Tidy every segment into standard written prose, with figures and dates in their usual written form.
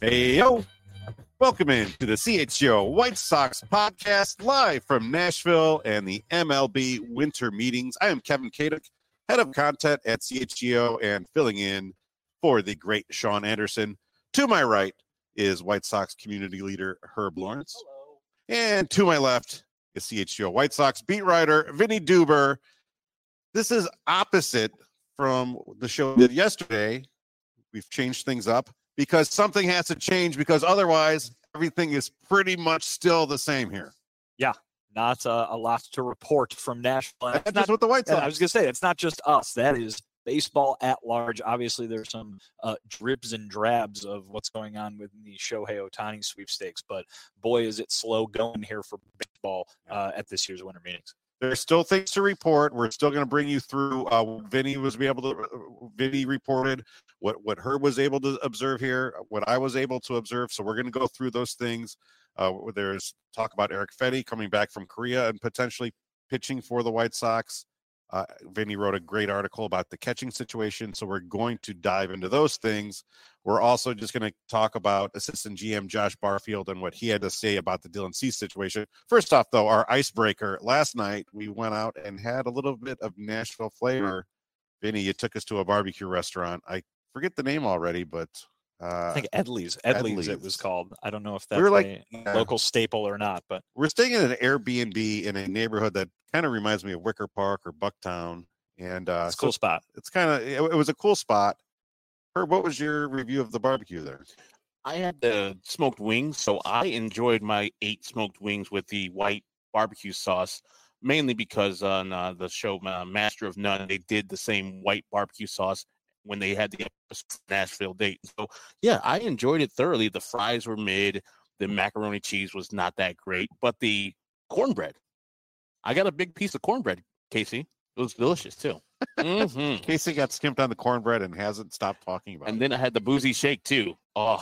Hey, yo. Welcome in to the CHGO White Sox podcast live from Nashville and the MLB winter meetings. I am Kevin Kaduk, head of content at CHGO and filling in for the great Sean Anderson. To my right is White Sox community leader Herb Lawrence. Hello. And to my left is CHGO White Sox beat writer Vinny Duber. This is opposite from the show we did yesterday. We've changed things up because something has to change, because otherwise everything is pretty much still the same here. Yeah, not a lot to report from Nashville. That's not with the White Sox. I was going to say, it's not just us. That is baseball at large. Obviously, there's some dribs and drabs of what's going on with the Shohei Ohtani sweepstakes, but boy, is it slow going here for baseball at this year's winter meetings. There's still things to report. We're still going to bring you through what Vinny reported, what Herb was able to observe here, what I was able to observe. So we're going to go through those things. There's talk about Erick Fedde coming back from Korea and potentially pitching for the White Sox. Vinny wrote a great article about the catching situation, so we're going to dive into those things. We're also just going to talk about assistant GM Josh Barfield and what he had to say about the Dylan Cease situation. First off, though, our icebreaker. Last night, we went out and had a little bit of Nashville flavor. Vinny, you took us to a barbecue restaurant. I forget the name already, but I think Edley's it was called. I don't know if that's a local staple or not, but we're staying in an Airbnb in a neighborhood that kind of reminds me of Wicker Park or Bucktown, and it's a cool spot. It's kind of it was a cool spot. Herb, what was your review of the barbecue there? I had the smoked wings, so I enjoyed my 8 smoked wings with the white barbecue sauce, mainly because on the show Master of None, they did the same white barbecue sauce when they had the Nashville date. So, yeah, I enjoyed it thoroughly. The fries were mid. The macaroni cheese was not that great. But the cornbread, I got a big piece of cornbread, Casey. It was delicious, too. Mm-hmm. Casey got skimped on the cornbread and hasn't stopped talking about it. And then I had the boozy shake, too. Oh,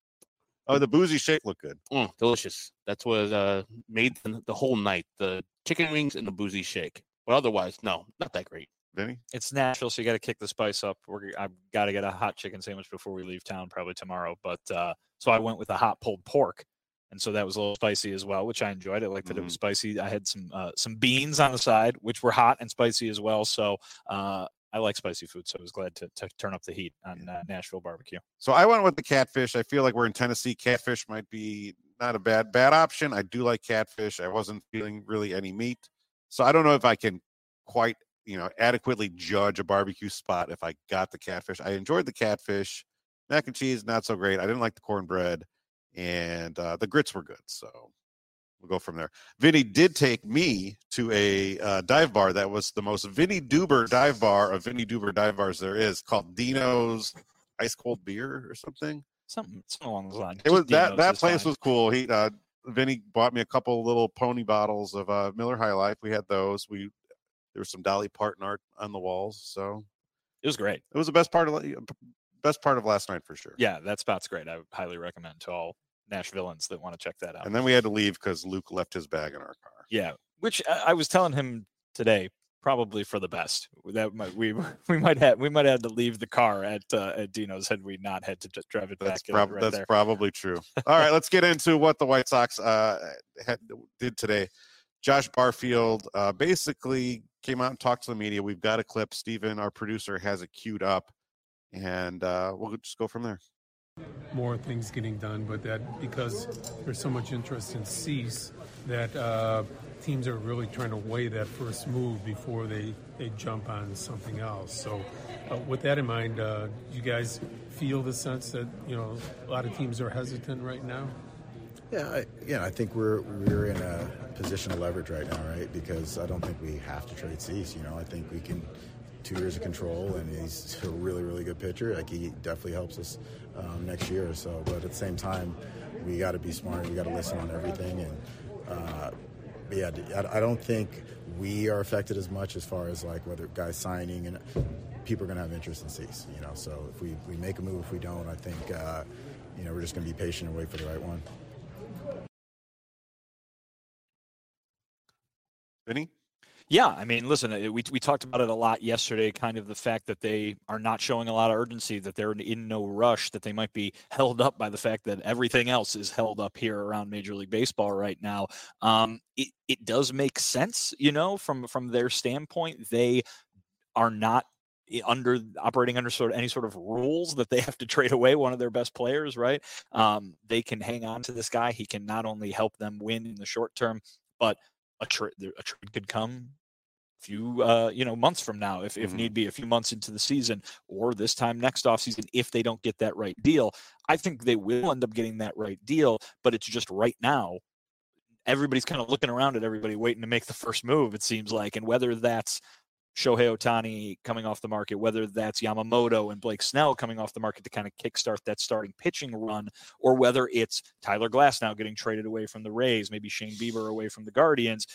the boozy shake looked good. Delicious. That's what made the whole night, the chicken wings and the boozy shake. But otherwise, no, not that great. Vinny? It's Nashville, so you got to kick the spice up. I've got to get a hot chicken sandwich before we leave town, probably tomorrow. But so I went with a hot pulled pork, and so that was a little spicy as well, which I enjoyed. I liked that it was spicy. I had some beans on the side, which were hot and spicy as well. So I like spicy food, so I was glad to turn up the heat on Nashville barbecue. So I went with the catfish. I feel like we're in Tennessee. Catfish might be not a bad option. I do like catfish. I wasn't feeling really any meat, so I don't know if I can quite adequately judge a barbecue spot if I got the catfish. I enjoyed the catfish. Mac and cheese, not so great. I didn't like the cornbread, and the grits were good. So we'll go from there. Vinny did take me to a dive bar that was the most Vinny Duber dive bar of Vinny Duber dive bars there is, called Dino's Ice Cold Beer or something. Something along those lines. It was that place was cool. Vinny bought me a couple little pony bottles of Miller High Life. We had those. There was some Dolly Parton art on the walls, so it was great. It was the best part of last night for sure. Yeah, that spot's great. I would highly recommend to all Nashvilleans that want to check that out. And then we had to leave because Luke left his bag in our car. Yeah, which I was telling him today, probably for the best. That we might have to leave the car at Dino's had we not had to just drive it back. That's probably true. All right, let's get into what the White Sox did today. Josh Barfield basically came out and talked to the media. We've got a clip. Steven, our producer, has it queued up, and we'll just go from there. More things getting done, but that because there's so much interest in Cease that teams are really trying to weigh that first move before they jump on something else. So with that in mind, do you guys feel the sense that a lot of teams are hesitant right now? Yeah, I think we're in a position of leverage right now, right? Because I don't think we have to trade Cease. I think we can 2 years of control, and he's a really, really good pitcher. Like, he definitely helps us next year or so. But at the same time, we got to be smart. We got to listen on everything. And I don't think we are affected as much as far as like whether guys signing, and people are going to have interest in Cease. So if we make a move, if we don't, I think we're just going to be patient and wait for the right one. Vinny? Yeah, I mean, listen, we talked about it a lot yesterday, kind of the fact that they are not showing a lot of urgency, that they're in no rush, that they might be held up by the fact that everything else is held up here around Major League Baseball right now. It does make sense, from their standpoint. They are not operating under any sort of rules that they have to trade away one of their best players, right? They can hang on to this guy. He can not only help them win in the short term, but a trade could come few months from now, if need be, a few months into the season, or this time next offseason, if they don't get that right deal. I think they will end up getting that right deal, but it's just right now everybody's kind of looking around at everybody waiting to make the first move, it seems like. And whether that's Shohei Ohtani coming off the market, whether that's Yamamoto and Blake Snell coming off the market to kind of kickstart that starting pitching run, or whether it's Tyler Glasnow getting traded away from the Rays, maybe Shane Bieber away from the Guardians,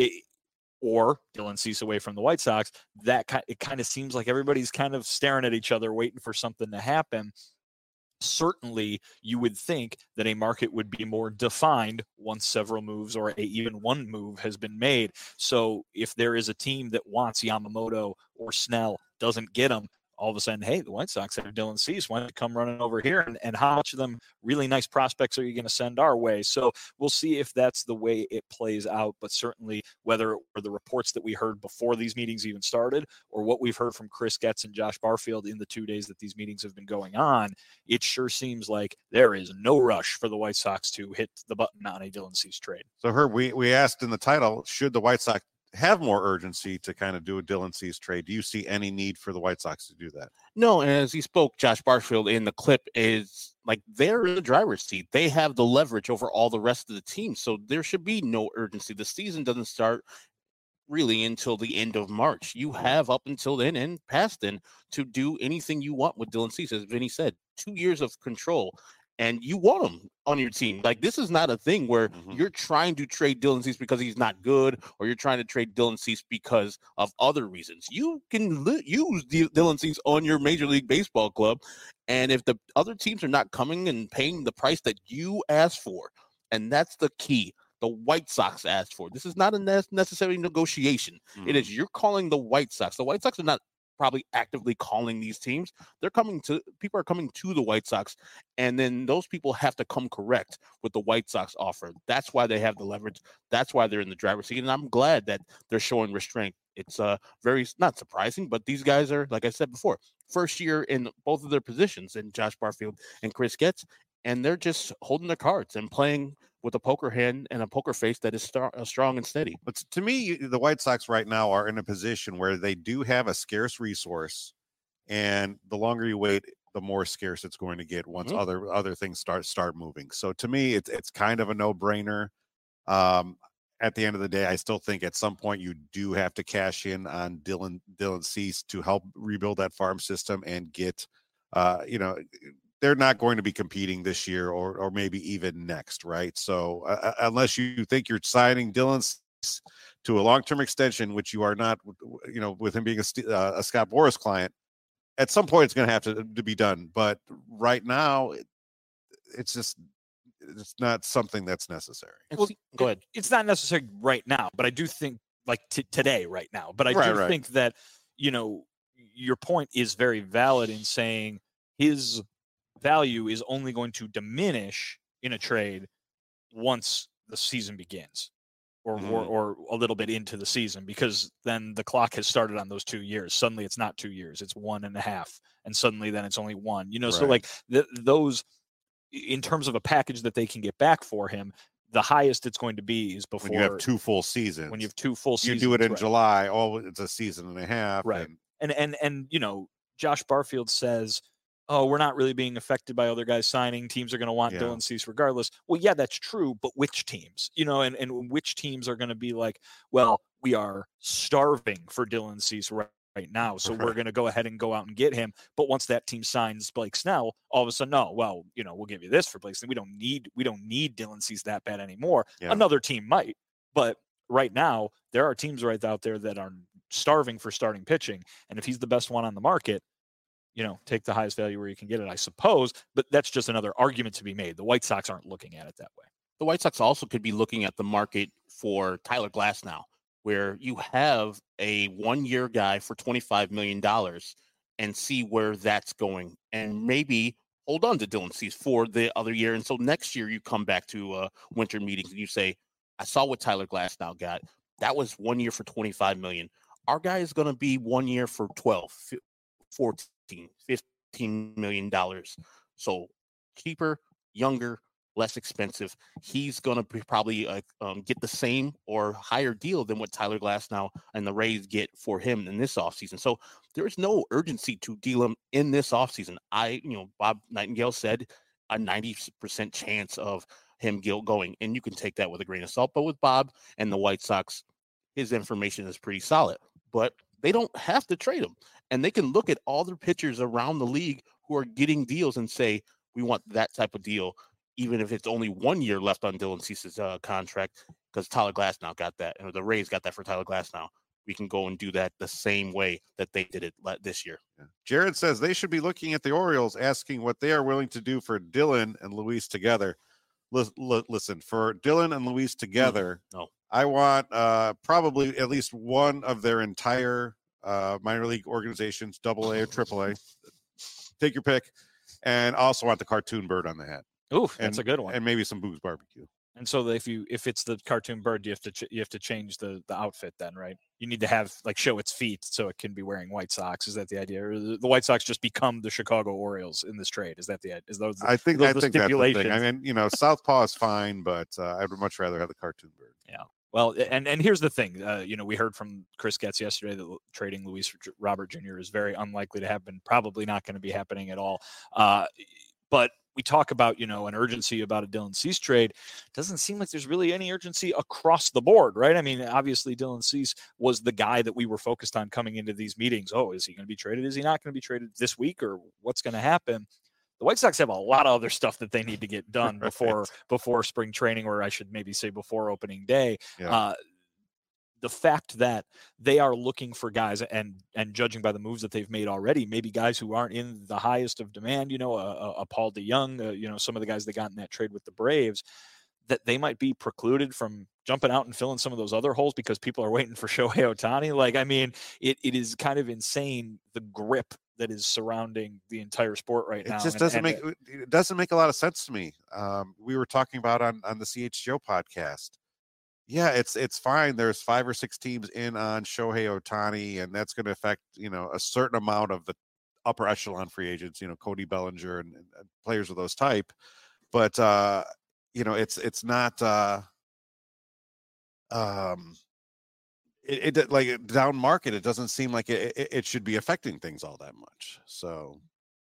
or Dylan Cease away from the White Sox, it kind of seems like everybody's kind of staring at each other, waiting for something to happen. Certainly, you would think that a market would be more defined once several moves or even one move has been made. So if there is a team that wants Yamamoto or Snell, doesn't get them, all of a sudden, hey, the White Sox have Dylan Cease. Why don't you come running over here? And how much of them really nice prospects are you going to send our way? So we'll see if that's the way it plays out. But certainly, whether or the reports that we heard before these meetings even started, or what we've heard from Chris Getz and Josh Barfield in the 2 days that these meetings have been going on, it sure seems like there is no rush for the White Sox to hit the button on a Dylan Cease trade. So, Herb, we asked in the title, should the White Sox have more urgency to kind of do a Dylan Cease trade? Do you see any need for the White Sox to do that? No, and as he spoke, Josh Barfield in the clip is like they're in the driver's seat. They have the leverage over all the rest of the team, so there should be no urgency. The season doesn't start really until the end of March. You have up until then and past then to do anything you want with Dylan Cease. As Vinny said, 2 years of control. And you want him on your team. Like, this is not a thing where you're trying to trade Dylan Cease because he's not good, or you're trying to trade Dylan Cease because of other reasons. You can use Dylan Cease on your Major League Baseball club. And if the other teams are not coming and paying the price that you asked for, and that's the key, the White Sox asked for. This is not a necessary negotiation. It is you're calling the White Sox. The White Sox are not probably actively calling these teams. People are coming to the White Sox, and then those people have to come correct with the White Sox offer. That's why they have the leverage. That's why they're in the driver's seat, and I'm glad that they're showing restraint. It's very not surprising, but these guys are, like I said before, first year in both of their positions, in Josh Barfield and Chris Getz, and they're just holding their cards and playing with a poker hand and a poker face that is strong and steady. But to me, the White Sox right now are in a position where they do have a scarce resource, and the longer you wait, the more scarce it's going to get once other things start moving. So to me, it's kind of a no-brainer. At the end of the day, I still think at some point you do have to cash in on Dylan Cease to help rebuild that farm system and get, they're not going to be competing this year or maybe even next, right? So unless you think you're signing Dylan Cease to a long-term extension, which you are not, with him being a Scott Boras client, at some point it's going to have to be done. But right now, it's not something that's necessary. Well, go ahead. It's not necessary right now, but I do think today, right now. But I think that, your point is very valid in saying his value is only going to diminish in a trade once the season begins or a little bit into the season, because then the clock has started on those 2 years. Suddenly it's not 2 years, it's 1.5. And suddenly then it's only one, so like those, in terms of a package that they can get back for him, the highest it's going to be is before when you have 2 full seasons. When you have 2 full seasons, you do it in July. Oh, it's a season and a half. Right. And Josh Barfield says, oh, we're not really being affected by other guys signing. Teams are going to want Dylan Cease regardless. Well, yeah, that's true. But which teams, and which teams are going to be like, well, we are starving for Dylan Cease right now, so we're going to go ahead and go out and get him. But once that team signs Blake Snell, all of a sudden, no, well, we'll give you this for Blake Snell. We don't need Dylan Cease that bad anymore. Yeah. Another team might, but right now there are teams right out there that are starving for starting pitching, and if he's the best one on the market, take the highest value where you can get it, I suppose. But that's just another argument to be made. The White Sox aren't looking at it that way. The White Sox also could be looking at the market for Tyler Glasnow. where you have a 1-year guy for $25 million and see where that's going, and maybe hold on to Dylan Cease for the other year. And so next year you come back to winter meetings and you say, I saw what Tyler Glasnow got. That was 1 year for $25 million. Our guy is going to be 1 year for 12, 14, $15 million. So cheaper, younger, less expensive. He's going to probably get the same or higher deal than what Tyler Glasnow and the Rays get for him in this offseason. So there is no urgency to deal him in this offseason. Bob Nightingale said a 90% chance of him going, and you can take that with a grain of salt. But with Bob and the White Sox, his information is pretty solid. But they don't have to trade him, and they can look at all the pitchers around the league who are getting deals and say, we want that type of deal, even if it's only 1 year left on Dylan Cease's contract, because Tyler Glasnow got that, and the Rays got that for Tyler Glasnow. We can go and do that the same way that they did it this year. Yeah. Jared says they should be looking at the Orioles, asking what they are willing to do for Dylan and Luis together. Listen, for Dylan and Luis together, no. I want probably at least one of their entire minor league organizations, AA or AAA. Take your pick. And also want the cartoon bird on the hat. Ooh, that's a good one. And maybe some Boo's barbecue. And so if it's the cartoon bird, you have to change the outfit then, right? You need to have show its feet so it can be wearing White Socks. Is that the idea? Or the White Sox just become the Chicago Orioles in this trade? Is that the idea? I think that's the thing. I mean, Southpaw is fine, but I would much rather have the cartoon bird. Yeah. Well, and here's the thing. We heard from Chris Getz yesterday that trading Luis Robert Jr. is very unlikely to happen. Probably not going to be happening at all. But we talk about, an urgency about a Dylan Cease trade. Doesn't seem like there's really any urgency across the board, right? I mean, obviously Dylan Cease was the guy that we were focused on coming into these meetings. Oh, is he going to be traded? Is he not going to be traded this week, or what's going to happen? The White Sox have a lot of other stuff that they need to get done before spring training, or I should maybe say before opening day. Yeah. The fact that they are looking for guys, and judging by the moves that they've made already, maybe guys who aren't in the highest of demand, a Paul DeJong, some of the guys that got in that trade with the Braves, that they might be precluded from jumping out and filling some of those other holes because people are waiting for Shohei Ohtani. It is kind of insane, the grip that is surrounding the entire sport right now. It just doesn't make a lot of sense to me. We were talking about on the CHGO podcast. Yeah, it's fine. There's 5 or 6 teams in on Shohei Ohtani, and that's going to affect, a certain amount of the upper echelon free agents, Cody Bellinger and players of those type. But, it's not down market. It doesn't seem like it should be affecting things all that much. So.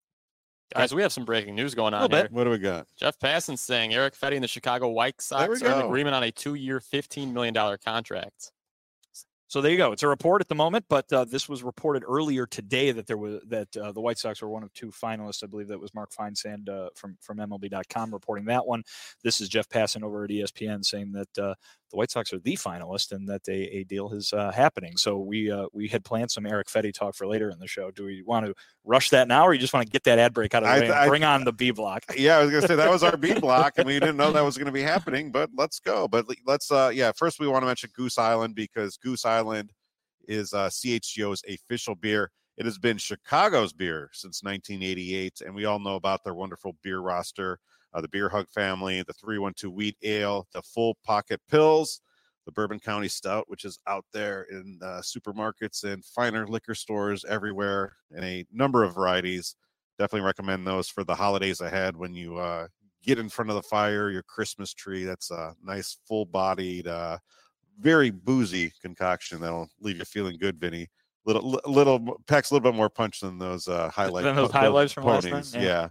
Guys, we have some breaking news going on here. What do we got? Jeff Passan saying Eric Fetty and the Chicago White Sox are in agreement on a 2-year, $15 million contract. So there you go. It's a report at the moment, but this was reported earlier today that the White Sox were one of 2 finalists. I believe that was Mark Feinsand from MLB.com reporting that one. This is Jeff Passan over at ESPN saying that the White Sox are the finalist and that a deal is happening. So we had planned some Eric Fetty talk for later in the show. Do we want to rush that now, or you just want to get that ad break out of the way and bring on the B block? Yeah, I was going to say that was our B block, and we didn't know that was going to be happening, but let's go. But let's, first we want to mention Goose Island, because Goose Island is CHGO's official beer. It has been Chicago's beer since 1988, and we all know about their wonderful beer roster. The Beer Hug family, the 312 Wheat Ale, the Full Pocket Pills, the Bourbon County Stout, which is out there in supermarkets and finer liquor stores everywhere in a number of varieties. Definitely recommend those for the holidays ahead when you get in front of the fire, your Christmas tree. That's a nice, full-bodied, very boozy concoction that'll leave you feeling good, Vinny. Little packs a little bit more punch than those highlights. Than those highlights from last night? Yeah.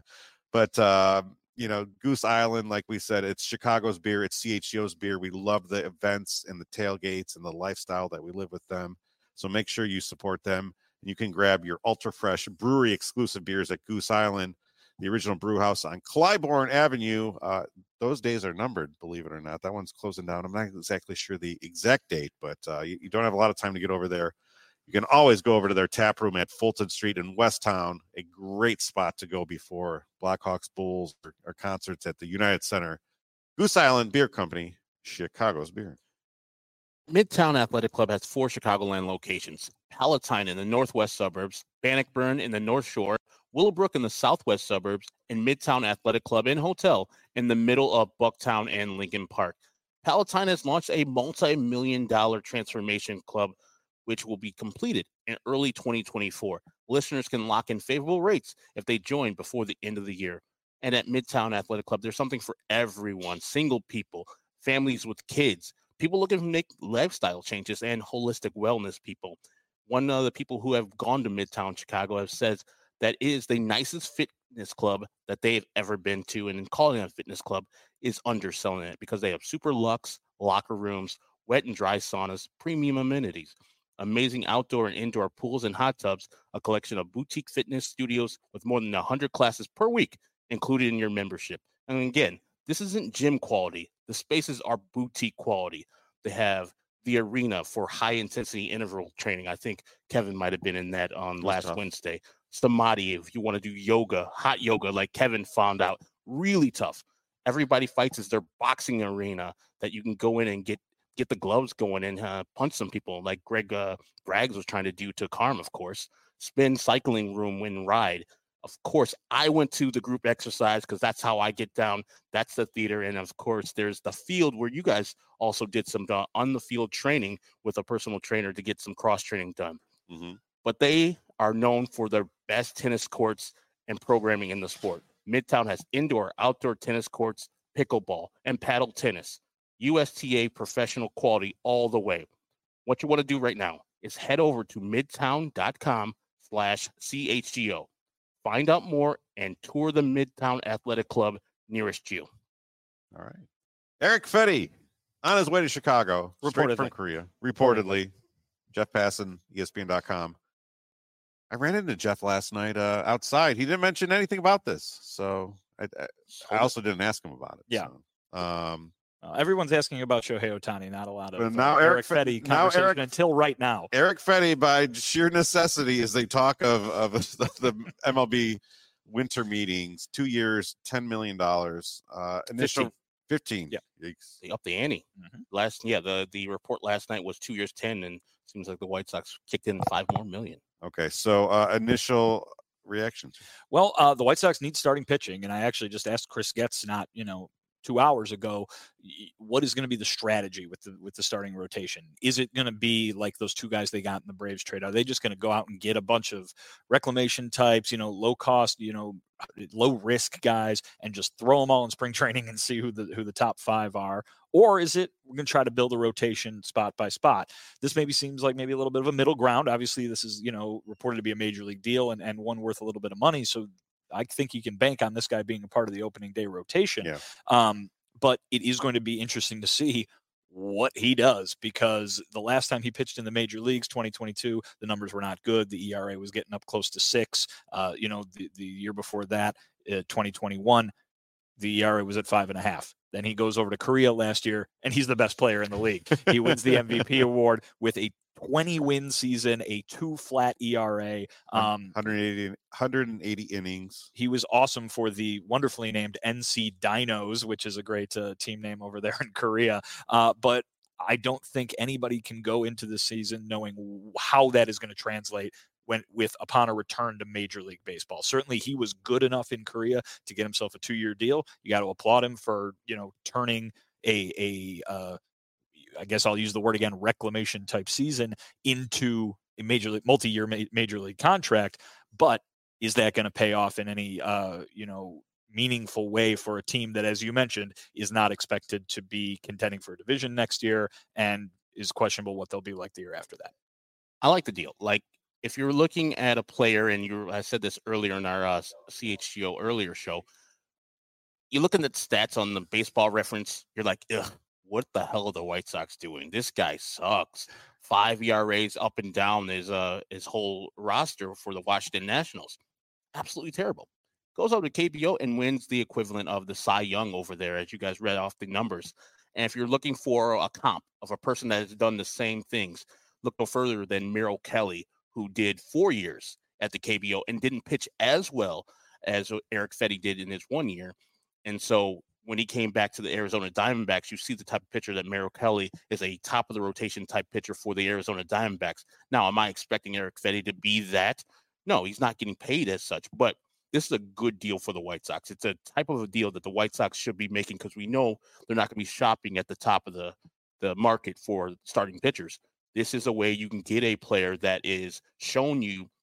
But Goose Island, like we said, it's Chicago's beer. It's CHGO's beer. We love the events and the tailgates and the lifestyle that we live with them. So make sure you support them. And you can grab your ultra fresh brewery exclusive beers at Goose Island, the original brew house on Clybourne Avenue. Those days are numbered, believe it or not. That one's closing down. I'm not exactly sure the exact date, but you don't have a lot of time to get over there. You can always go over to their tap room at Fulton Street in Westtown, a great spot to go before Blackhawks, Bulls, or concerts at the United Center. Goose Island Beer Company, Chicago's beer. Midtown Athletic Club has 4 Chicagoland locations: Palatine in the northwest suburbs, Bannockburn in the North Shore, Willowbrook in the southwest suburbs, and Midtown Athletic Club and Hotel in the middle of Bucktown and Lincoln Park. Palatine has launched a multi-million-dollar transformation club, which will be completed in early 2024. Listeners can lock in favorable rates if they join before the end of the year. And at Midtown Athletic Club, there's something for everyone: single people, families with kids, people looking to make lifestyle changes, and holistic wellness people. One of the people who have gone to Midtown Chicago have said that is the nicest fitness club that they've ever been to. And in calling it a fitness club is underselling it, because they have super luxe locker rooms, wet and dry saunas, premium amenities, amazing outdoor and indoor pools and hot tubs, a collection of boutique fitness studios with more than 100 classes per week included in your membership. And again, this isn't gym quality. The spaces are boutique quality. They have the arena for high intensity interval training. I think Kevin might have been in that on last Wednesday. Samadhi, if you want to do yoga, hot yoga, like Kevin found out, really tough. Everybody Fights is their boxing arena that you can go in and get the gloves going and punch some people, like Greg Braggs was trying to do to Carm, of course. Spin cycling room and ride. Of course, I went to the group exercise because that's how I get down. That's the theater. And of course, there's the field where you guys also did some on the field training with a personal trainer to get some cross training done. Mm-hmm. But they are known for their best tennis courts and programming in the sport. Midtown has indoor, outdoor tennis courts, pickleball, and paddle tennis. USTA professional quality all the way. What you want to do right now is head over to midtown.com/CHGO. Find out more and tour the Midtown Athletic Club nearest you. All right. Eric Fetty on his way to Chicago, straight from Korea. Reportedly. Jeff Passan, ESPN.com. I ran into Jeff last night outside. He didn't mention anything about this, so I also didn't ask him about it. Yeah. So, everyone's asking about Shohei Ohtani, not a lot of now Eric Fetty conversation until right now. Eric Fetty, by sheer necessity, is they talk of the MLB winter meetings, 2 years, $10 million. Initial 15. Yeah. They upped the ante. Mm-hmm. The report last night was 2 years, 10, and seems like the White Sox kicked in $5 more million. Okay, so initial reactions. Well, the White Sox need starting pitching, and I actually just asked Chris Getz 2 hours ago, what is going to be the strategy with the starting rotation? Is it going to be like those 2 guys they got in the Braves trade? Are they just going to go out and get a bunch of reclamation types, low cost, low risk guys, and just throw them all in spring training and see who the top 5 are? Or is it we're going to try to build a rotation spot by spot? This maybe seems like maybe a little bit of a middle ground. Obviously, this is reported to be a major league deal and one worth a little bit of money. So I think you can bank on this guy being a part of the opening day rotation. Yeah. But it is going to be interesting to see what he does, because the last time he pitched in the major leagues, 2022, the numbers were not good. The ERA was getting up close to 6. The year before that, 2021, the ERA was at 5.5. Then he goes over to Korea last year, and he's the best player in the league. He wins the MVP award with a 20-win season, a 2 flat ERA, 180 innings. He was awesome for the wonderfully named NC Dinos, which is a great team name over there in Korea. But I don't think anybody can go into the season knowing how that is going to translate upon a return to Major League Baseball. Certainly he was good enough in Korea to get himself a 2-year deal. You got to applaud him for, turning I guess I'll use the word again, reclamation type season into a multi-year major league contract. But is that going to pay off in any, meaningful way for a team that, as you mentioned, is not expected to be contending for a division next year and is questionable what they'll be like the year after that? I like the deal. Like, if you're looking at a player, and I said this earlier in our CHGO earlier show, you're looking at stats on the Baseball Reference, you're like, ugh, what the hell are the White Sox doing? This guy sucks. 5 ERAs up and down his whole roster for the Washington Nationals. Absolutely terrible. Goes over to KBO and wins the equivalent of the Cy Young over there, as you guys read off the numbers. And if you're looking for a comp of a person that has done the same things, look no further than Merrill Kelly, who did 4 years at the KBO and didn't pitch as well as Eric Fetty did in his 1 year. And so when he came back to the Arizona Diamondbacks, you see the type of pitcher that Merrill Kelly is, a top of the rotation type pitcher for the Arizona Diamondbacks. Now, am I expecting Erick Fedde to be that? No, he's not getting paid as such, but this is a good deal for the White Sox. It's a type of a deal that the White Sox should be making because we know they're not going to be shopping at the top of the market for starting pitchers. This is a way you can get a player that is shown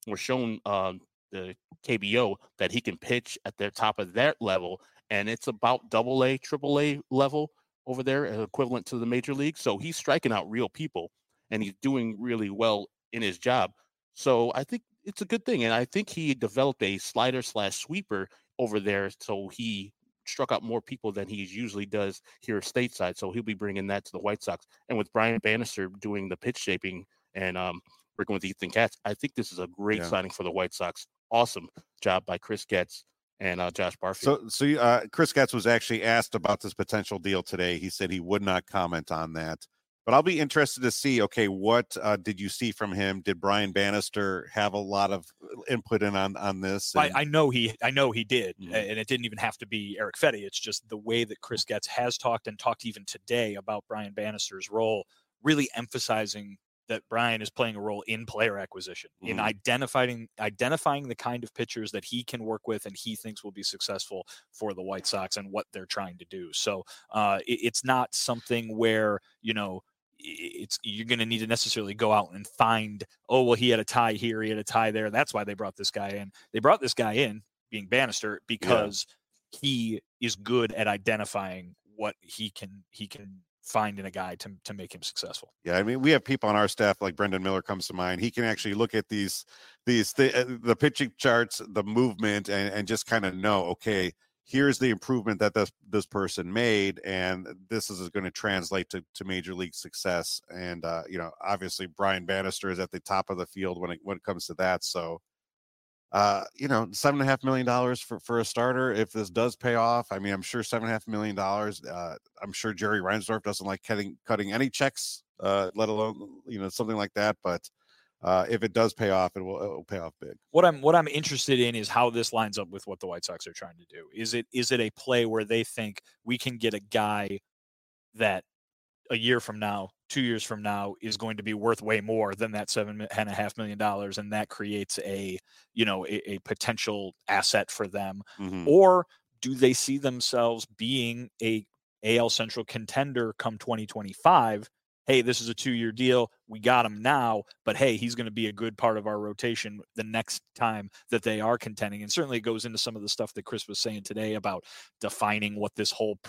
the KBO that he can pitch at the top of that level, and it's about AA, AAA level over there, equivalent to the major league. So he's striking out real people, and he's doing really well in his job. So I think it's a good thing, and I think he developed a slider/sweeper over there, so he struck out more people than he usually does here stateside. So he'll be bringing that to the White Sox. And with Brian Bannister doing the pitch shaping and working with Ethan Katz, I think this is a great signing for the White Sox. Awesome job by Chris Getz and Josh Barfield. So Chris Getz was actually asked about this potential deal today. He said he would not comment on that. But I'll be interested to see, okay, what did you see from him? Did Brian Bannister have a lot of input on this? And I know he did, and it didn't even have to be Erick Fedde. It's just the way that Chris Getz has talked even today about Brian Bannister's role, really emphasizing that Brian is playing a role in player acquisition, in identifying the kind of pitchers that he can work with and he thinks will be successful for the White Sox and what they're trying to do. So it's not something where, you're going to need to necessarily go out and find, oh, well, he had a tie here, he had a tie there. That's why they brought this guy in. They brought this guy in, being Bannister, because he is good at identifying what he can find in a guy to make him successful. Yeah, I mean, we have people on our staff like Brendan Miller comes to mind. He can actually look at the pitching charts, the movement, and just kind of know, okay, here's the improvement that this person made, and this is going to translate to major league success. And obviously Brian Bannister is at the top of the field when it comes to that. So $7.5 million for a starter. If this does pay off, I mean, I'm sure $7.5 million. I'm sure Jerry Reinsdorf doesn't like cutting any checks, let alone something like that. But if it does pay off, it will pay off big. What I'm interested in is how this lines up with what the White Sox are trying to do. Is it a play where they think we can get a guy that a year from now, 2 years from now, is going to be worth way more than that $7.5 million, and that creates a potential asset for them? Or do they see themselves being a AL Central contender come 2025? Hey, this is a 2-year deal. We got him now, but hey, he's going to be a good part of our rotation the next time that they are contending. And certainly it goes into some of the stuff that Chris was saying today about defining what this whole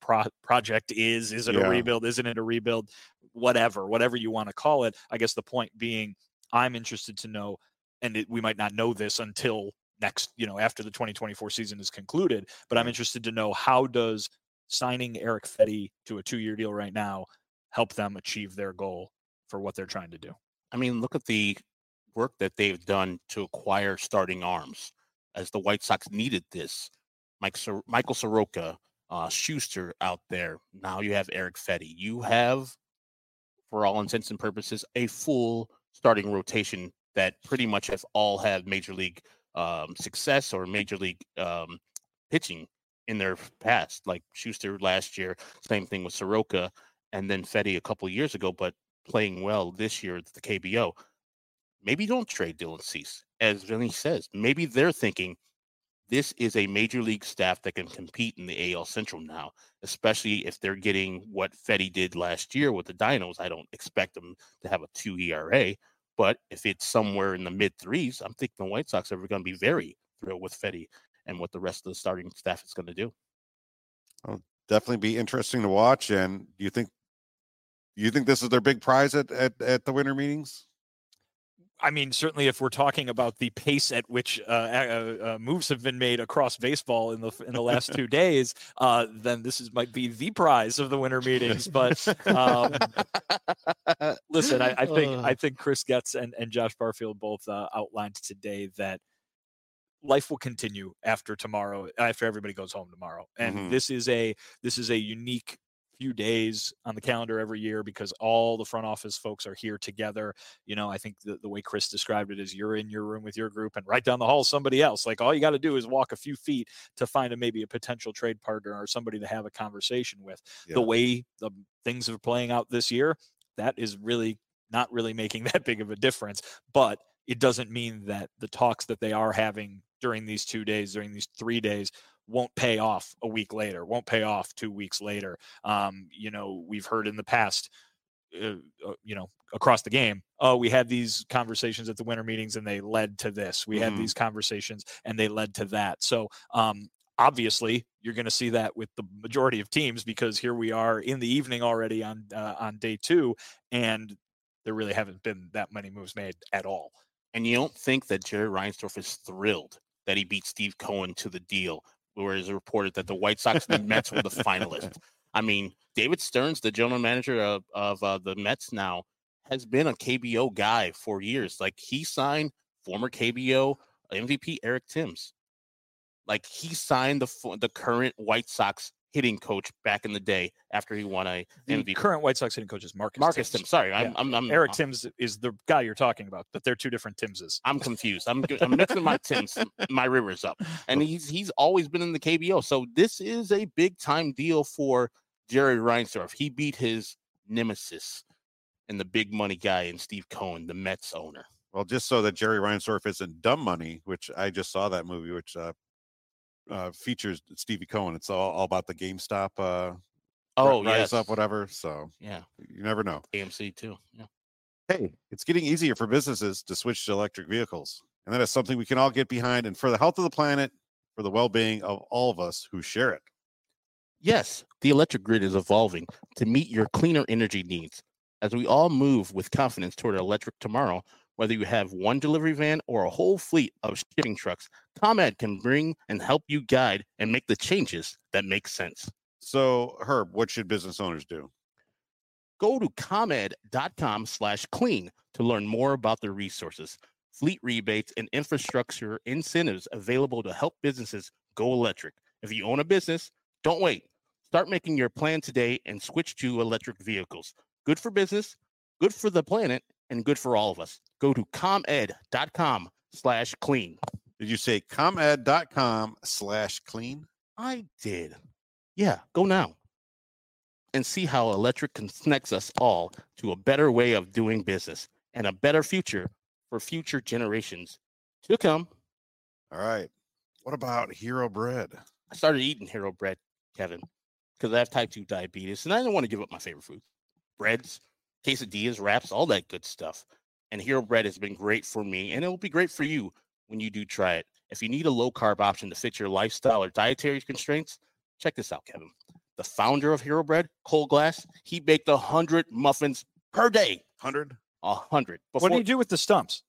project is. Is it a rebuild? Isn't it a rebuild? Whatever you want to call it. I guess the point being, I'm interested to know, and we might not know this until next, after the 2024 season is concluded, but I'm interested to know, how does signing Erick Fedde to a 2-year deal right now help them achieve their goal for what they're trying to do? I mean, look at the work that they've done to acquire starting arms, as the White Sox needed this. Michael Soroka, Schuster out there. Now you have Erick Fedde. You have, for all intents and purposes, a full starting rotation that pretty much have all had major league success or major league pitching in their past. Like Schuster last year, same thing with Soroka, and then Fedde a couple of years ago, but playing well this year at the KBO. Maybe don't trade Dylan Cease. As Vinny says, maybe they're thinking this is a major league staff that can compete in the AL Central now, especially if they're getting what Fedde did last year with the Dinos. I don't expect them to have a 2 ERA, but if it's somewhere in the mid threes, I'm thinking the White Sox are going to be very thrilled with Fedde and what the rest of the starting staff is going to do. Well, definitely be interesting to watch. And do you think this is their big prize at the winter meetings? I mean, certainly if we're talking about the pace at which moves have been made across baseball in the last 2 days, then this might be the prize of the winter meetings. But listen, I think Chris Getz and Josh Barfield both outlined today that life will continue after tomorrow, after everybody goes home tomorrow, and this is a unique few days on the calendar every year because all the front office folks are here together. I think the way Chris described it is you're in your room with your group and right down the hall somebody else. Like all you got to do is walk a few feet to find maybe a potential trade partner or somebody to have a conversation with. Yeah. The way the things are playing out this year, that is really not really making that big of a difference. But it doesn't mean that the talks that they are having during these 2 days, during these 3 days, won't pay off a week later, won't pay off 2 weeks later. We've heard in the past, across the game, we had these conversations at the winter meetings and they led to this. We had these conversations and they led to that. So obviously you're going to see that with the majority of teams because here we are in the evening already on day 2, and there really haven't been that many moves made at all. And you don't think that Jerry Reinsdorf is thrilled that he beat Steve Cohen to the deal, where it's reported that the White Sox and the Mets were the finalists. I mean, David Stearns, the general manager of the Mets now, has been a KBO guy for years. Like, he signed former KBO MVP Eric Thames. Like, he signed the current White Sox hitting coach back in the day after he won a MVP. The current White Sox hitting coach is Marcus Thames. Sorry, yeah. I'm Eric Thames is the guy you're talking about, but they're two different Timses. I'm confused. I'm mixing my Tims, my Rivers up, and he's always been in the KBO. So this is a big time deal for Jerry Reinsdorf. He beat his nemesis and the big money guy in Steve Cohen, the Mets owner. Well, just so that Jerry Reinsdorf isn't dumb money, which I just saw that movie, which features Stevie Cohen. It's all about the GameStop rise up, whatever. So yeah, you never know. AMC too. Yeah. Hey, it's getting easier for businesses to switch to electric vehicles, and that is something we can all get behind, and for the health of the planet, for the well-being of all of us who share it. Yes, the electric grid is evolving to meet your cleaner energy needs. As we all move with confidence toward electric tomorrow, whether you have one delivery van or a whole fleet of shipping trucks, ComEd can bring and help you guide and make the changes that make sense. So, Herb, what should business owners do? Go to ComEd.com/clean to learn more about the resources, fleet rebates, and infrastructure incentives available to help businesses go electric. If you own a business, don't wait. Start making your plan today and switch to electric vehicles. Good for business, good for the planet, and good for all of us. Go to ComEd.com/clean. Did you say ComEd.com/clean? I did. Yeah, go now and see how electric connects us all to a better way of doing business and a better future for future generations to come. All right. What about Hero Bread? I started eating Hero Bread, Kevin, because I have type 2 diabetes, and I don't want to give up my favorite food. Breads, quesadillas, wraps, all that good stuff. And Hero Bread has been great for me, and it will be great for you when you do try it. If you need a low-carb option to fit your lifestyle or dietary constraints, check this out, Kevin. The founder of Hero Bread, Cole Glass, he baked 100 muffins per day. 100? 100. What do you do with the stumps?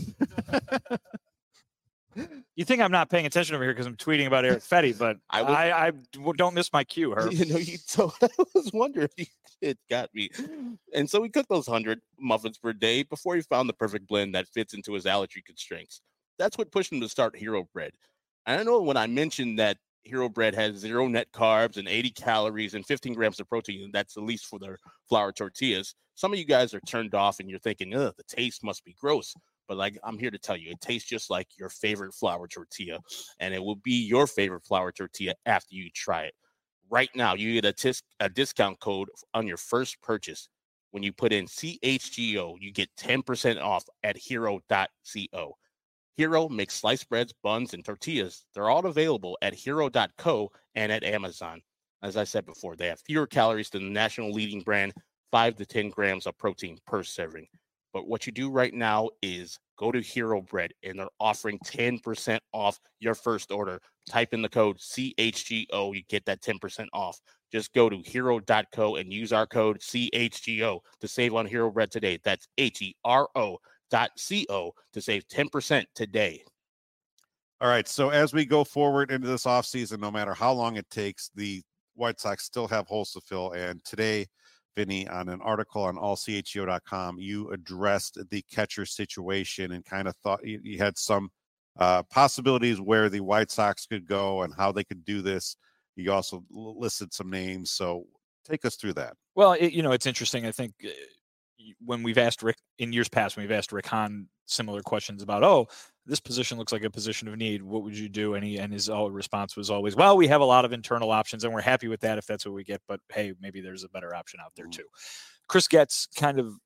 You think I'm not paying attention over here because I'm tweeting about Eric Fetty, but I don't miss my cue, Herb. So I was wondering if it got me. And so he cooked those 100 muffins per day before he found the perfect blend that fits into his allergy constraints. That's what pushed him to start Hero Bread. And I know when I mentioned that Hero Bread has 0 net carbs and 80 calories and 15 grams of protein, that's the least for their flour tortillas, some of you guys are turned off and you're thinking, the taste must be gross. But like, I'm here to tell you, it tastes just like your favorite flour tortilla, and it will be your favorite flour tortilla after you try it. Right now, you get a discount code on your first purchase. When you put in CHGO, you get 10% off at hero.co. Hero makes sliced breads, buns, and tortillas. They're all available at hero.co and at Amazon. As I said before, they have fewer calories than the national leading brand, 5 to 10 grams of protein per serving. But what you do right now is go to Hero Bread, and they're offering 10% off your first order. Type in the code CHGO. You get that 10% off. Just go to hero.co and use our code CHGO to save on Hero Bread today. That's HERO.co to save 10% today. All right. So as we go forward into this offseason, no matter how long it takes, the White Sox still have holes to fill. And today, Vinny, on an article on allchgo.com, you addressed the catcher situation and kind of thought you had some possibilities where the White Sox could go and how they could do this. You also listed some names. So Take us through that. Well, it's interesting. I think when we've asked Rick in years past, when we've asked Rick Hahn similar questions about, this position looks like a position of need, what would you do? And his response was always, well, we have a lot of internal options and we're happy with that if that's what we get. But hey, maybe there's a better option out there too. Chris Getz kind of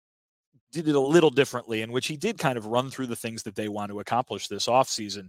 did it a little differently, in which he did kind of run through the things that they want to accomplish this offseason,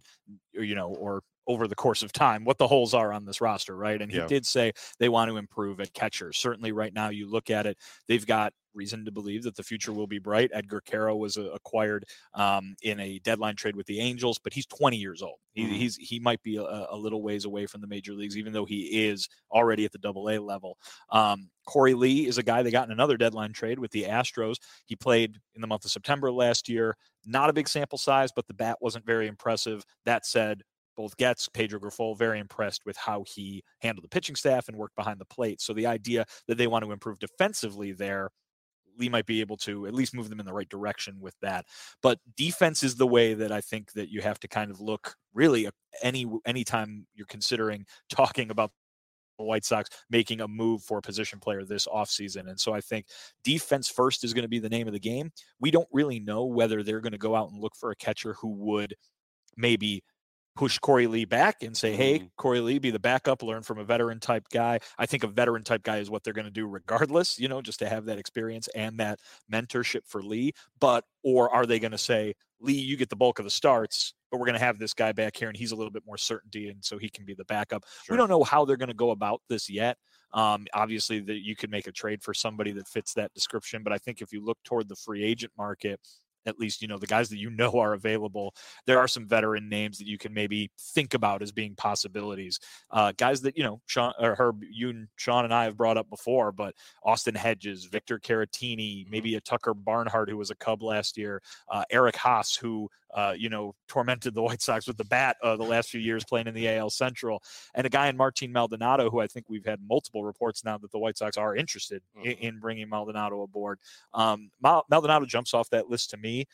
or over the course of time, what the holes are on this roster, right? And he did say they want to improve at catcher. Certainly right now you look at it, they've got reason to believe that the future will be bright. Edgar Quero was acquired in a deadline trade with the Angels, but he's 20 years old. He might be a little ways away from the major leagues, even though he is already at the AA level. Corey Lee is a guy that got in another deadline trade with the Astros. He played in the month of September last year. Not a big sample size, but the bat wasn't very impressive. That said, both Getz, Pedro Grifol, very impressed with how he handled the pitching staff and worked behind the plate. So the idea that they want to improve defensively there, Lee might be able to at least move them in the right direction with that. But defense is the way that I think that you have to kind of look really anytime you're considering talking about the White Sox making a move for a position player this offseason. And so I think defense first is going to be the name of the game. We don't really know whether they're going to go out and look for a catcher who would maybe push Corey Lee back and say, hey, Corey Lee, be the backup, learn from a veteran type guy. I think a veteran type guy is what they're going to do regardless, just to have that experience and that mentorship for Lee. Or are they going to say, Lee, you get the bulk of the starts, but we're going to have this guy back here and he's a little bit more certainty, and so he can be the backup. Sure. We don't know how they're going to go about this yet. Obviously, that you could make a trade for somebody that fits that description, but I think if you look toward the free agent market, at least, the guys that are available, there are some veteran names that you can maybe think about as being possibilities. Guys that, Sean or Herb, you and Sean and I have brought up before, but Austin Hedges, Victor Caratini, maybe a Tucker Barnhart, who was a Cub last year, Eric Haas, who, tormented the White Sox with the bat the last few years playing in the AL Central, and a guy in Martin Maldonado, who I think we've had multiple reports now that the White Sox are interested in bringing Maldonado aboard. Maldonado jumps off that list to me.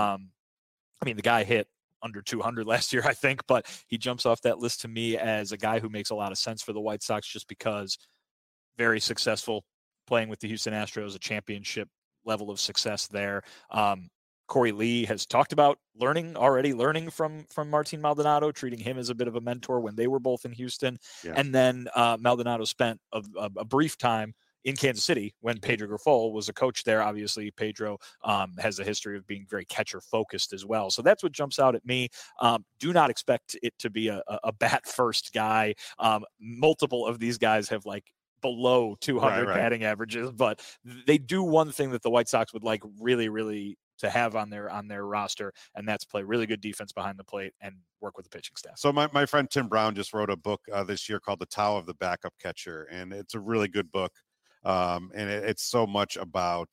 The guy hit under 200 last year, I think, but he jumps off that list to me as a guy who makes a lot of sense for the White Sox just because very successful playing with the Houston Astros, a championship level of success there. Corey Lee has talked about learning from Martin Maldonado, treating him as a bit of a mentor when they were both in Houston. Yeah. And then Maldonado spent a brief time in Kansas City when Pedro Grifol was a coach there. Obviously, Pedro has a history of being very catcher-focused as well. So that's what jumps out at me. Do not expect it to be a bat-first guy. Multiple of these guys have below 200 batting averages, but they do one thing that the White Sox would like really, really to have on their roster, and that's play really good defense behind the plate and work with the pitching staff. So my friend Tim Brown just wrote a book this year called The Tao of the Backup Catcher, and it's a really good book. And it's so much about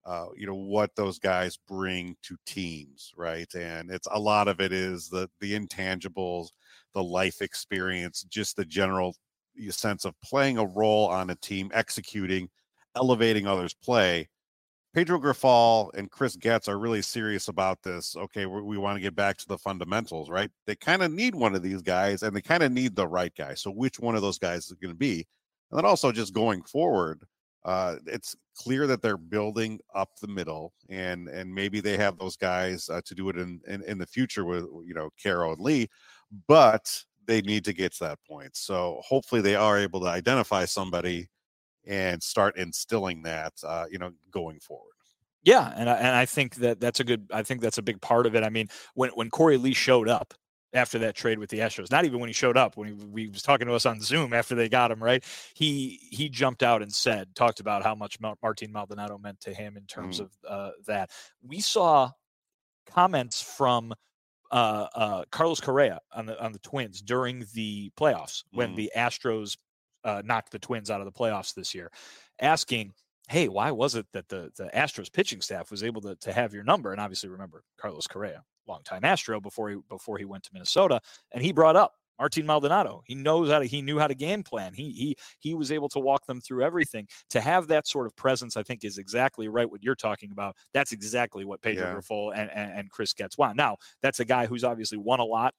what those guys bring to teams, right? And it's a lot of it is the intangibles, the life experience, just the general sense of playing a role on a team, executing, elevating others' play. Pedro Grifol and Chris Getz are really serious about this. Okay, we want to get back to the fundamentals, right? They kind of need one of these guys, and they kind of need the right guy. So which one of those guys is going to be? And then also just going forward, it's clear that they're building up the middle, and maybe they have those guys to do it in the future with Quero and Lee, but they need to get to that point. So hopefully they are able to identify somebody and start instilling that, going forward. Yeah, and I think that's a big part of it. I mean, when Corey Lee showed up after that trade with the Astros, not even when he showed up, when he was talking to us on Zoom after they got him, right? He jumped out and talked about how much Martin Maldonado meant to him in terms of that. We saw comments from Carlos Correa on the Twins during the playoffs when the Astros knocked the Twins out of the playoffs this year, asking, hey, why was it that the Astros pitching staff was able to have your number? And obviously, remember Carlos Correa, longtime Astro before he went to Minnesota, and he brought up Martin Maldonado. He knew how to game plan. He was able to walk them through everything. To have that sort of presence, I think, is exactly right what you're talking about. That's exactly what Pedro Grifol and Chris Getz want. Now, that's a guy who's obviously won a lot.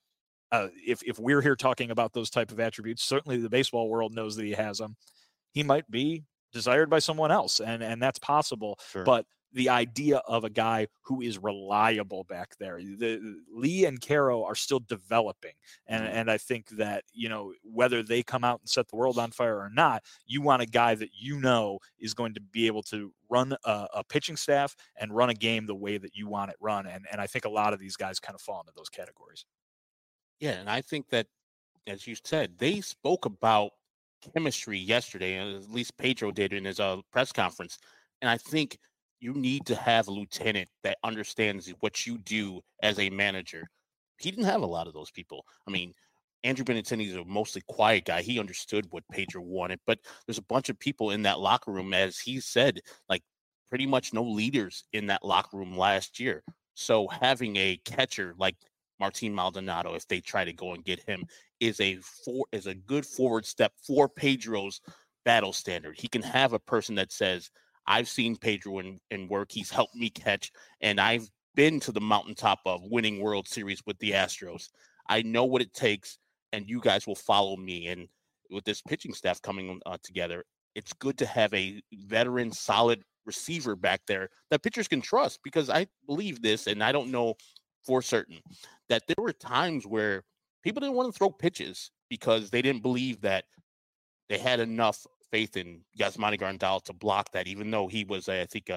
If we're here talking about those type of attributes, certainly the baseball world knows that he has them. He might be desired by someone else, and that's possible. Sure. But the idea of a guy who is reliable back there, Lee and Caro are still developing, and I think that, you know, whether they come out and set the world on fire or not, you want a guy that you know is going to be able to run a pitching staff and run a game the way that you want it run, and I think a lot of these guys kind of fall into those categories. Yeah, and I think that, as you said, they spoke about chemistry yesterday, and at least Pedro did in his press conference, and I think you need to have a lieutenant that understands what you do as a manager. He didn't have a lot of those people. I mean, Andrew Benintendi is a mostly quiet guy. He understood what Pedro wanted, but there's a bunch of people in that locker room, as he said, like pretty much no leaders in that locker room last year. So having a catcher like Martin Maldonado, if they try to go and get him, is a good forward step for Pedro's battle standard. He can have a person that says, I've seen Pedro in work. He's helped me catch, and I've been to the mountaintop of winning World Series with the Astros. I know what it takes, and you guys will follow me. And with this pitching staff coming together, it's good to have a veteran, solid receiver back there that pitchers can trust, because I believe this, and I don't know for certain, that there were times where people didn't want to throw pitches because they didn't believe that they had enough faith in Yasmani Grandal to block that, even though he was, I think,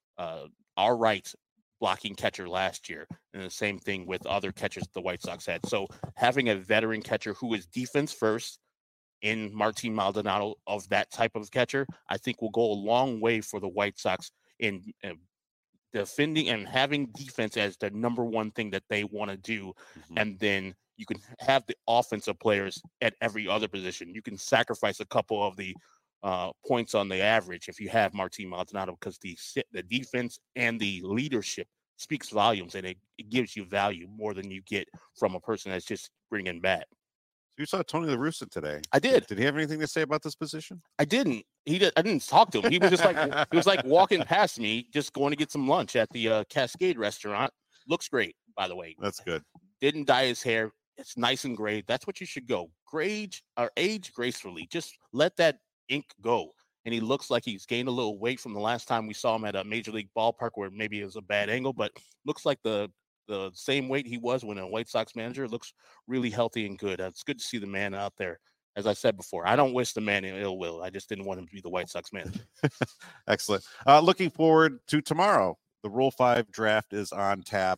all right blocking catcher last year. And the same thing with other catchers the White Sox had. So having a veteran catcher who is defense first in Martin Maldonado, of that type of catcher, I think will go a long way for the White Sox in defending and having defense as the number one thing that they want to do. Mm-hmm. And then you can have the offensive players at every other position. You can sacrifice a couple of the points on the average if you have Martin Maldonado, because the defense and the leadership speaks volumes, and it gives you value more than you get from a person that's just bringing bat. So you saw Tony La Russa today. I did. Did he have anything to say about this position? I didn't. I didn't talk to him. He was just like walking past me, just going to get some lunch at the Cascade restaurant. Looks great, by the way. That's good. Didn't dye his hair. It's nice and gray. That's what you should go. Age gracefully. Just let that ink go. And he looks like he's gained a little weight from the last time we saw him at a major league ballpark, where maybe it was a bad angle, but looks like the same weight he was when a White Sox manager. Looks really healthy and good. It's good to see the man out there. As I said before, I don't wish the man ill will. I just didn't want him to be the White Sox manager. Excellent. Looking forward to tomorrow. The Rule 5 draft is on tap.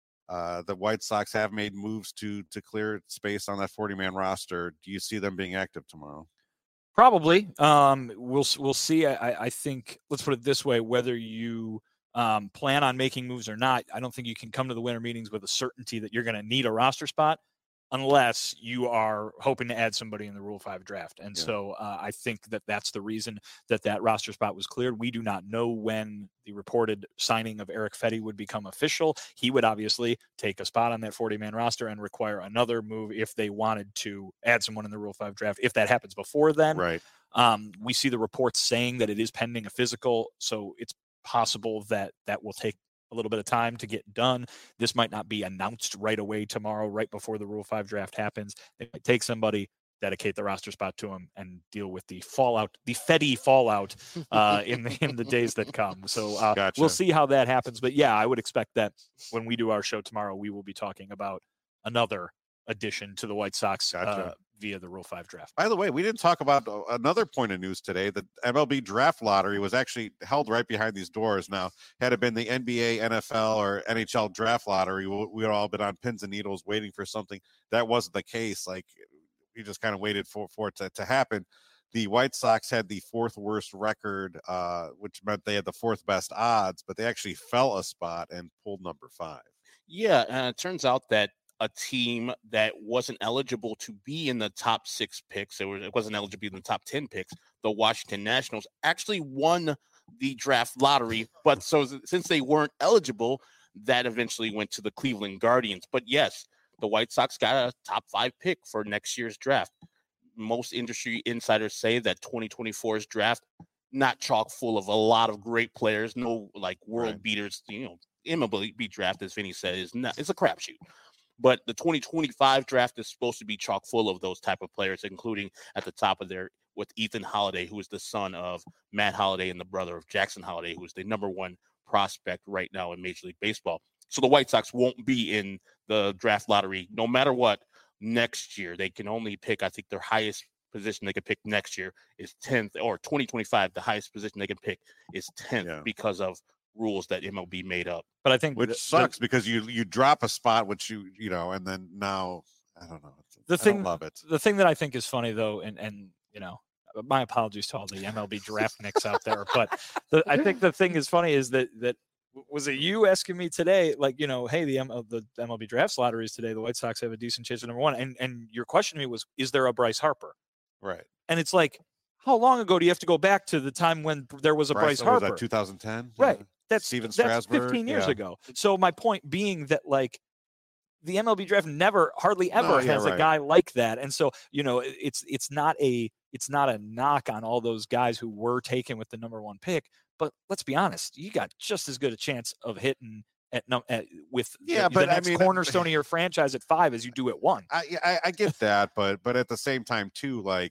The White Sox have made moves to clear space on that 40-man roster. Do you see them being active tomorrow? Probably. We'll see. I think, let's put it this way, whether you plan on making moves or not, I don't think you can come to the winter meetings with a certainty that you're going to need a roster spot unless you are hoping to add somebody in the Rule 5 draft. And so I think that's the reason that roster spot was cleared. We do not know when the reported signing of Erick Fedde would become official. He would obviously take a spot on that 40-man roster and require another move if they wanted to add someone in the Rule 5 draft. If that happens before then, right. We see the reports saying that it is pending a physical, so it's possible that will take a little bit of time to get done. This might not be announced right away tomorrow, right before the Rule 5 draft happens. They might take somebody, dedicate the roster spot to him, and deal with the fallout, the Fedde fallout in the days that come. So Gotcha. We'll see how that happens. But yeah, I would expect that when we do our show tomorrow, we will be talking about another addition to the White Sox via the Rule 5 draft. By the way, we didn't talk about another point of news today. The MLB draft lottery was actually held right behind these doors. Now, had it been the NBA, NFL, or NHL draft lottery, we would all been on pins and needles waiting for something. That wasn't the case. Like, we just kind of waited for it to happen. The White Sox had the fourth worst record, which meant they had the fourth best odds, but they actually fell a spot and pulled number 5. Yeah, and it turns out that a team that wasn't eligible to be in the top 6 picks, it wasn't eligible to be in the top 10 picks, the Washington Nationals, actually won the draft lottery. But so since they weren't eligible, that eventually went to the Cleveland Guardians. But yes, the White Sox got a top 5 pick for next year's draft. Most industry insiders say that 2024's draft, not chock full of a lot of great players, no like world beaters, MLB draft, as Vinny said, it's a crapshoot. But the 2025 draft is supposed to be chock full of those type of players, including at the top of their with Ethan Holiday, who is the son of Matt Holiday and the brother of Jackson Holiday, who is the number one prospect right now in Major League Baseball. So the White Sox won't be in the draft lottery no matter what next year. They can only pick, I think their highest position they could pick next year is 10th, or 2025, the highest position they can pick is 10th because of rules that MLB made up. But I think which sucks because you drop a spot, which you know, and then now I don't know. I don't love it. The thing that I think is funny though, and you know, my apologies to all the MLB draft nicks out there, but I think the thing is funny is that was it you asking me today, like, you know, hey, the MLB drafts lottery is today. The White Sox have a decent chance at number one, and your question to me was, is there a Bryce Harper? Right. And it's like, how long ago do you have to go back to the time when there was a Bryce Harper? Was that 2010? Right. That's Steven Strasburg. 15 years ago. So my point being that, like, the MLB draft hardly ever has a guy like that. And so, you know, it's not a knock on all those guys who were taken with the number one pick, but let's be honest, you got just as good a chance of hitting with the next cornerstone of your franchise at 5 as you do at 1. I get that, but at the same time too, like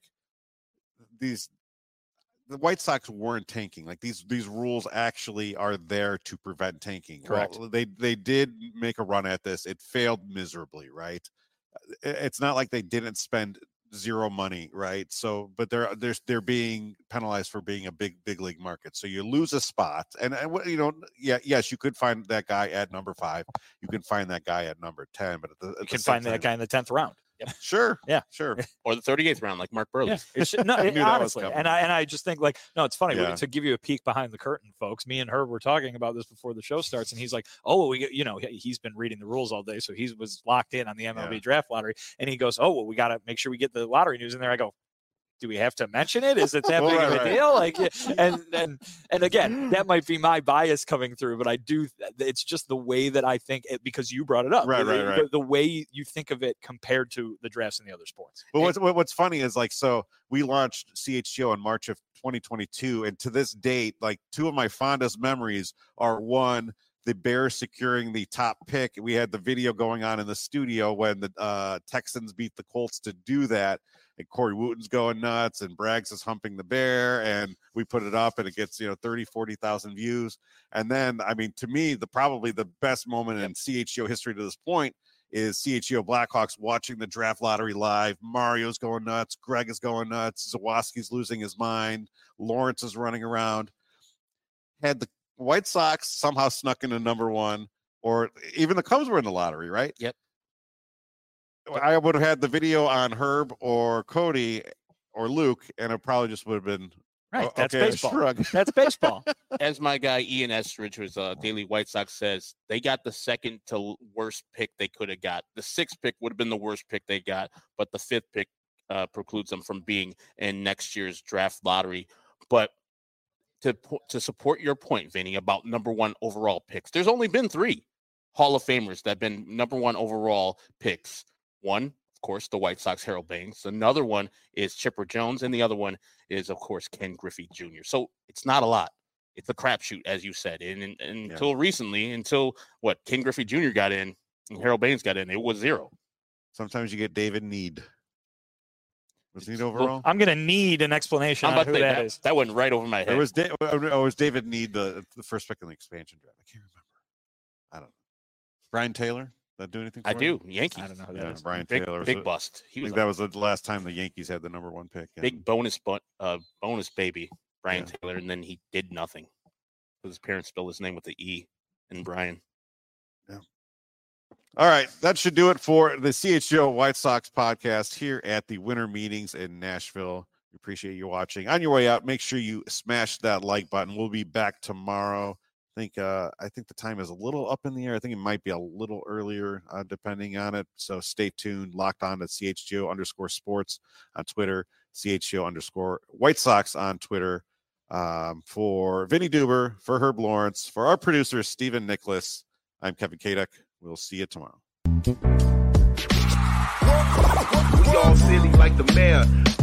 the White Sox weren't tanking. Like these rules actually are there to prevent tanking. Correct. Well, they did make a run at this. It failed miserably, right? It's not like they didn't spend zero money, right? So, but they're being penalized for being a big league market. So you lose a spot, and you know, yes, you could find that guy at number 5. You can find that guy at number 10, but you can find that guy in the 10th round. Yep. Sure. Yeah. Sure. Or the 38th round, like Mark Burley. Yeah. Honestly, and I just think, like, no, it's funny to give you a peek behind the curtain, folks. Me and Herb were talking about this before the show starts, and he's like, "Oh, he's been reading the rules all day, so he was locked in on the MLB draft lottery." And he goes, "Oh, well, we got to make sure we get the lottery news in there." I go, do we have to mention it? Is it that big of a deal? Like, and again, that might be my bias coming through, but it's just the way that I think it, because you brought it up, right. The way you think of it compared to the drafts in the other sports. But what's funny is, like, so we launched CHGO in March of 2022, and to this date, like, 2 of my fondest memories are, one, the Bears securing the top pick. We had the video going on in the studio when the Texans beat the Colts to do that. And Corey Wooten's going nuts, and Braggs is humping the bear, and we put it up, and it gets 30,000-40,000 views. And then, I mean, to me, probably the best moment in CHGO history to this point is CHGO Blackhawks watching the draft lottery live. Mario's going nuts, Greg is going nuts, Zawoski's losing his mind, Lawrence is running around. Had the White Sox somehow snuck into number 1, or even the Cubs were in the lottery, right? Yep. I would have had the video on Herb or Cody or Luke, and it probably just would have been right. That's baseball. That's baseball. As my guy Ian Estridge, who's Daily White Sox, says, they got the second to worst pick they could have got. The 6th pick would have been the worst pick they got, but the 5th pick precludes them from being in next year's draft lottery. But to support your point, Vinny, about number 1 overall picks, there's only been 3 Hall of Famers that have been number 1 overall picks. One, of course, the White Sox, Harold Baines. Another one is Chipper Jones, and the other one is, of course, Ken Griffey Jr. So it's not a lot. It's a crapshoot, as you said. And until recently, Ken Griffey Jr. got in and Harold Baines got in, it was 0. Sometimes you get David Need. Was Need overall? I'm going to need an explanation on who that is. That went right over my head. It was David Need, the first pick in the expansion draft. I can't remember. I don't know. Brian Taylor? That do anything for I do. Yankees. I don't know who that is. Brian Taylor. Big bust. That was the last time the Yankees had the number 1 pick. Yeah. Big bonus baby, Brian Taylor, and then he did nothing. His parents spelled his name with the E in Brian. Yeah. All right. That should do it for the CHGO White Sox podcast here at the winter meetings in Nashville. We appreciate you watching. On your way out, make sure you smash that like button. We'll be back tomorrow. I think the time is a little up in the air. I think it might be a little earlier, depending on it. So stay tuned. Locked on at CHGO_sports on Twitter, CHGO_White Sox on Twitter. For Vinny Duber, for Herb Lawrence, for our producer, Stephen Nicholas, I'm Kevin Kaduk. We'll see you tomorrow. We all silly like the mayor.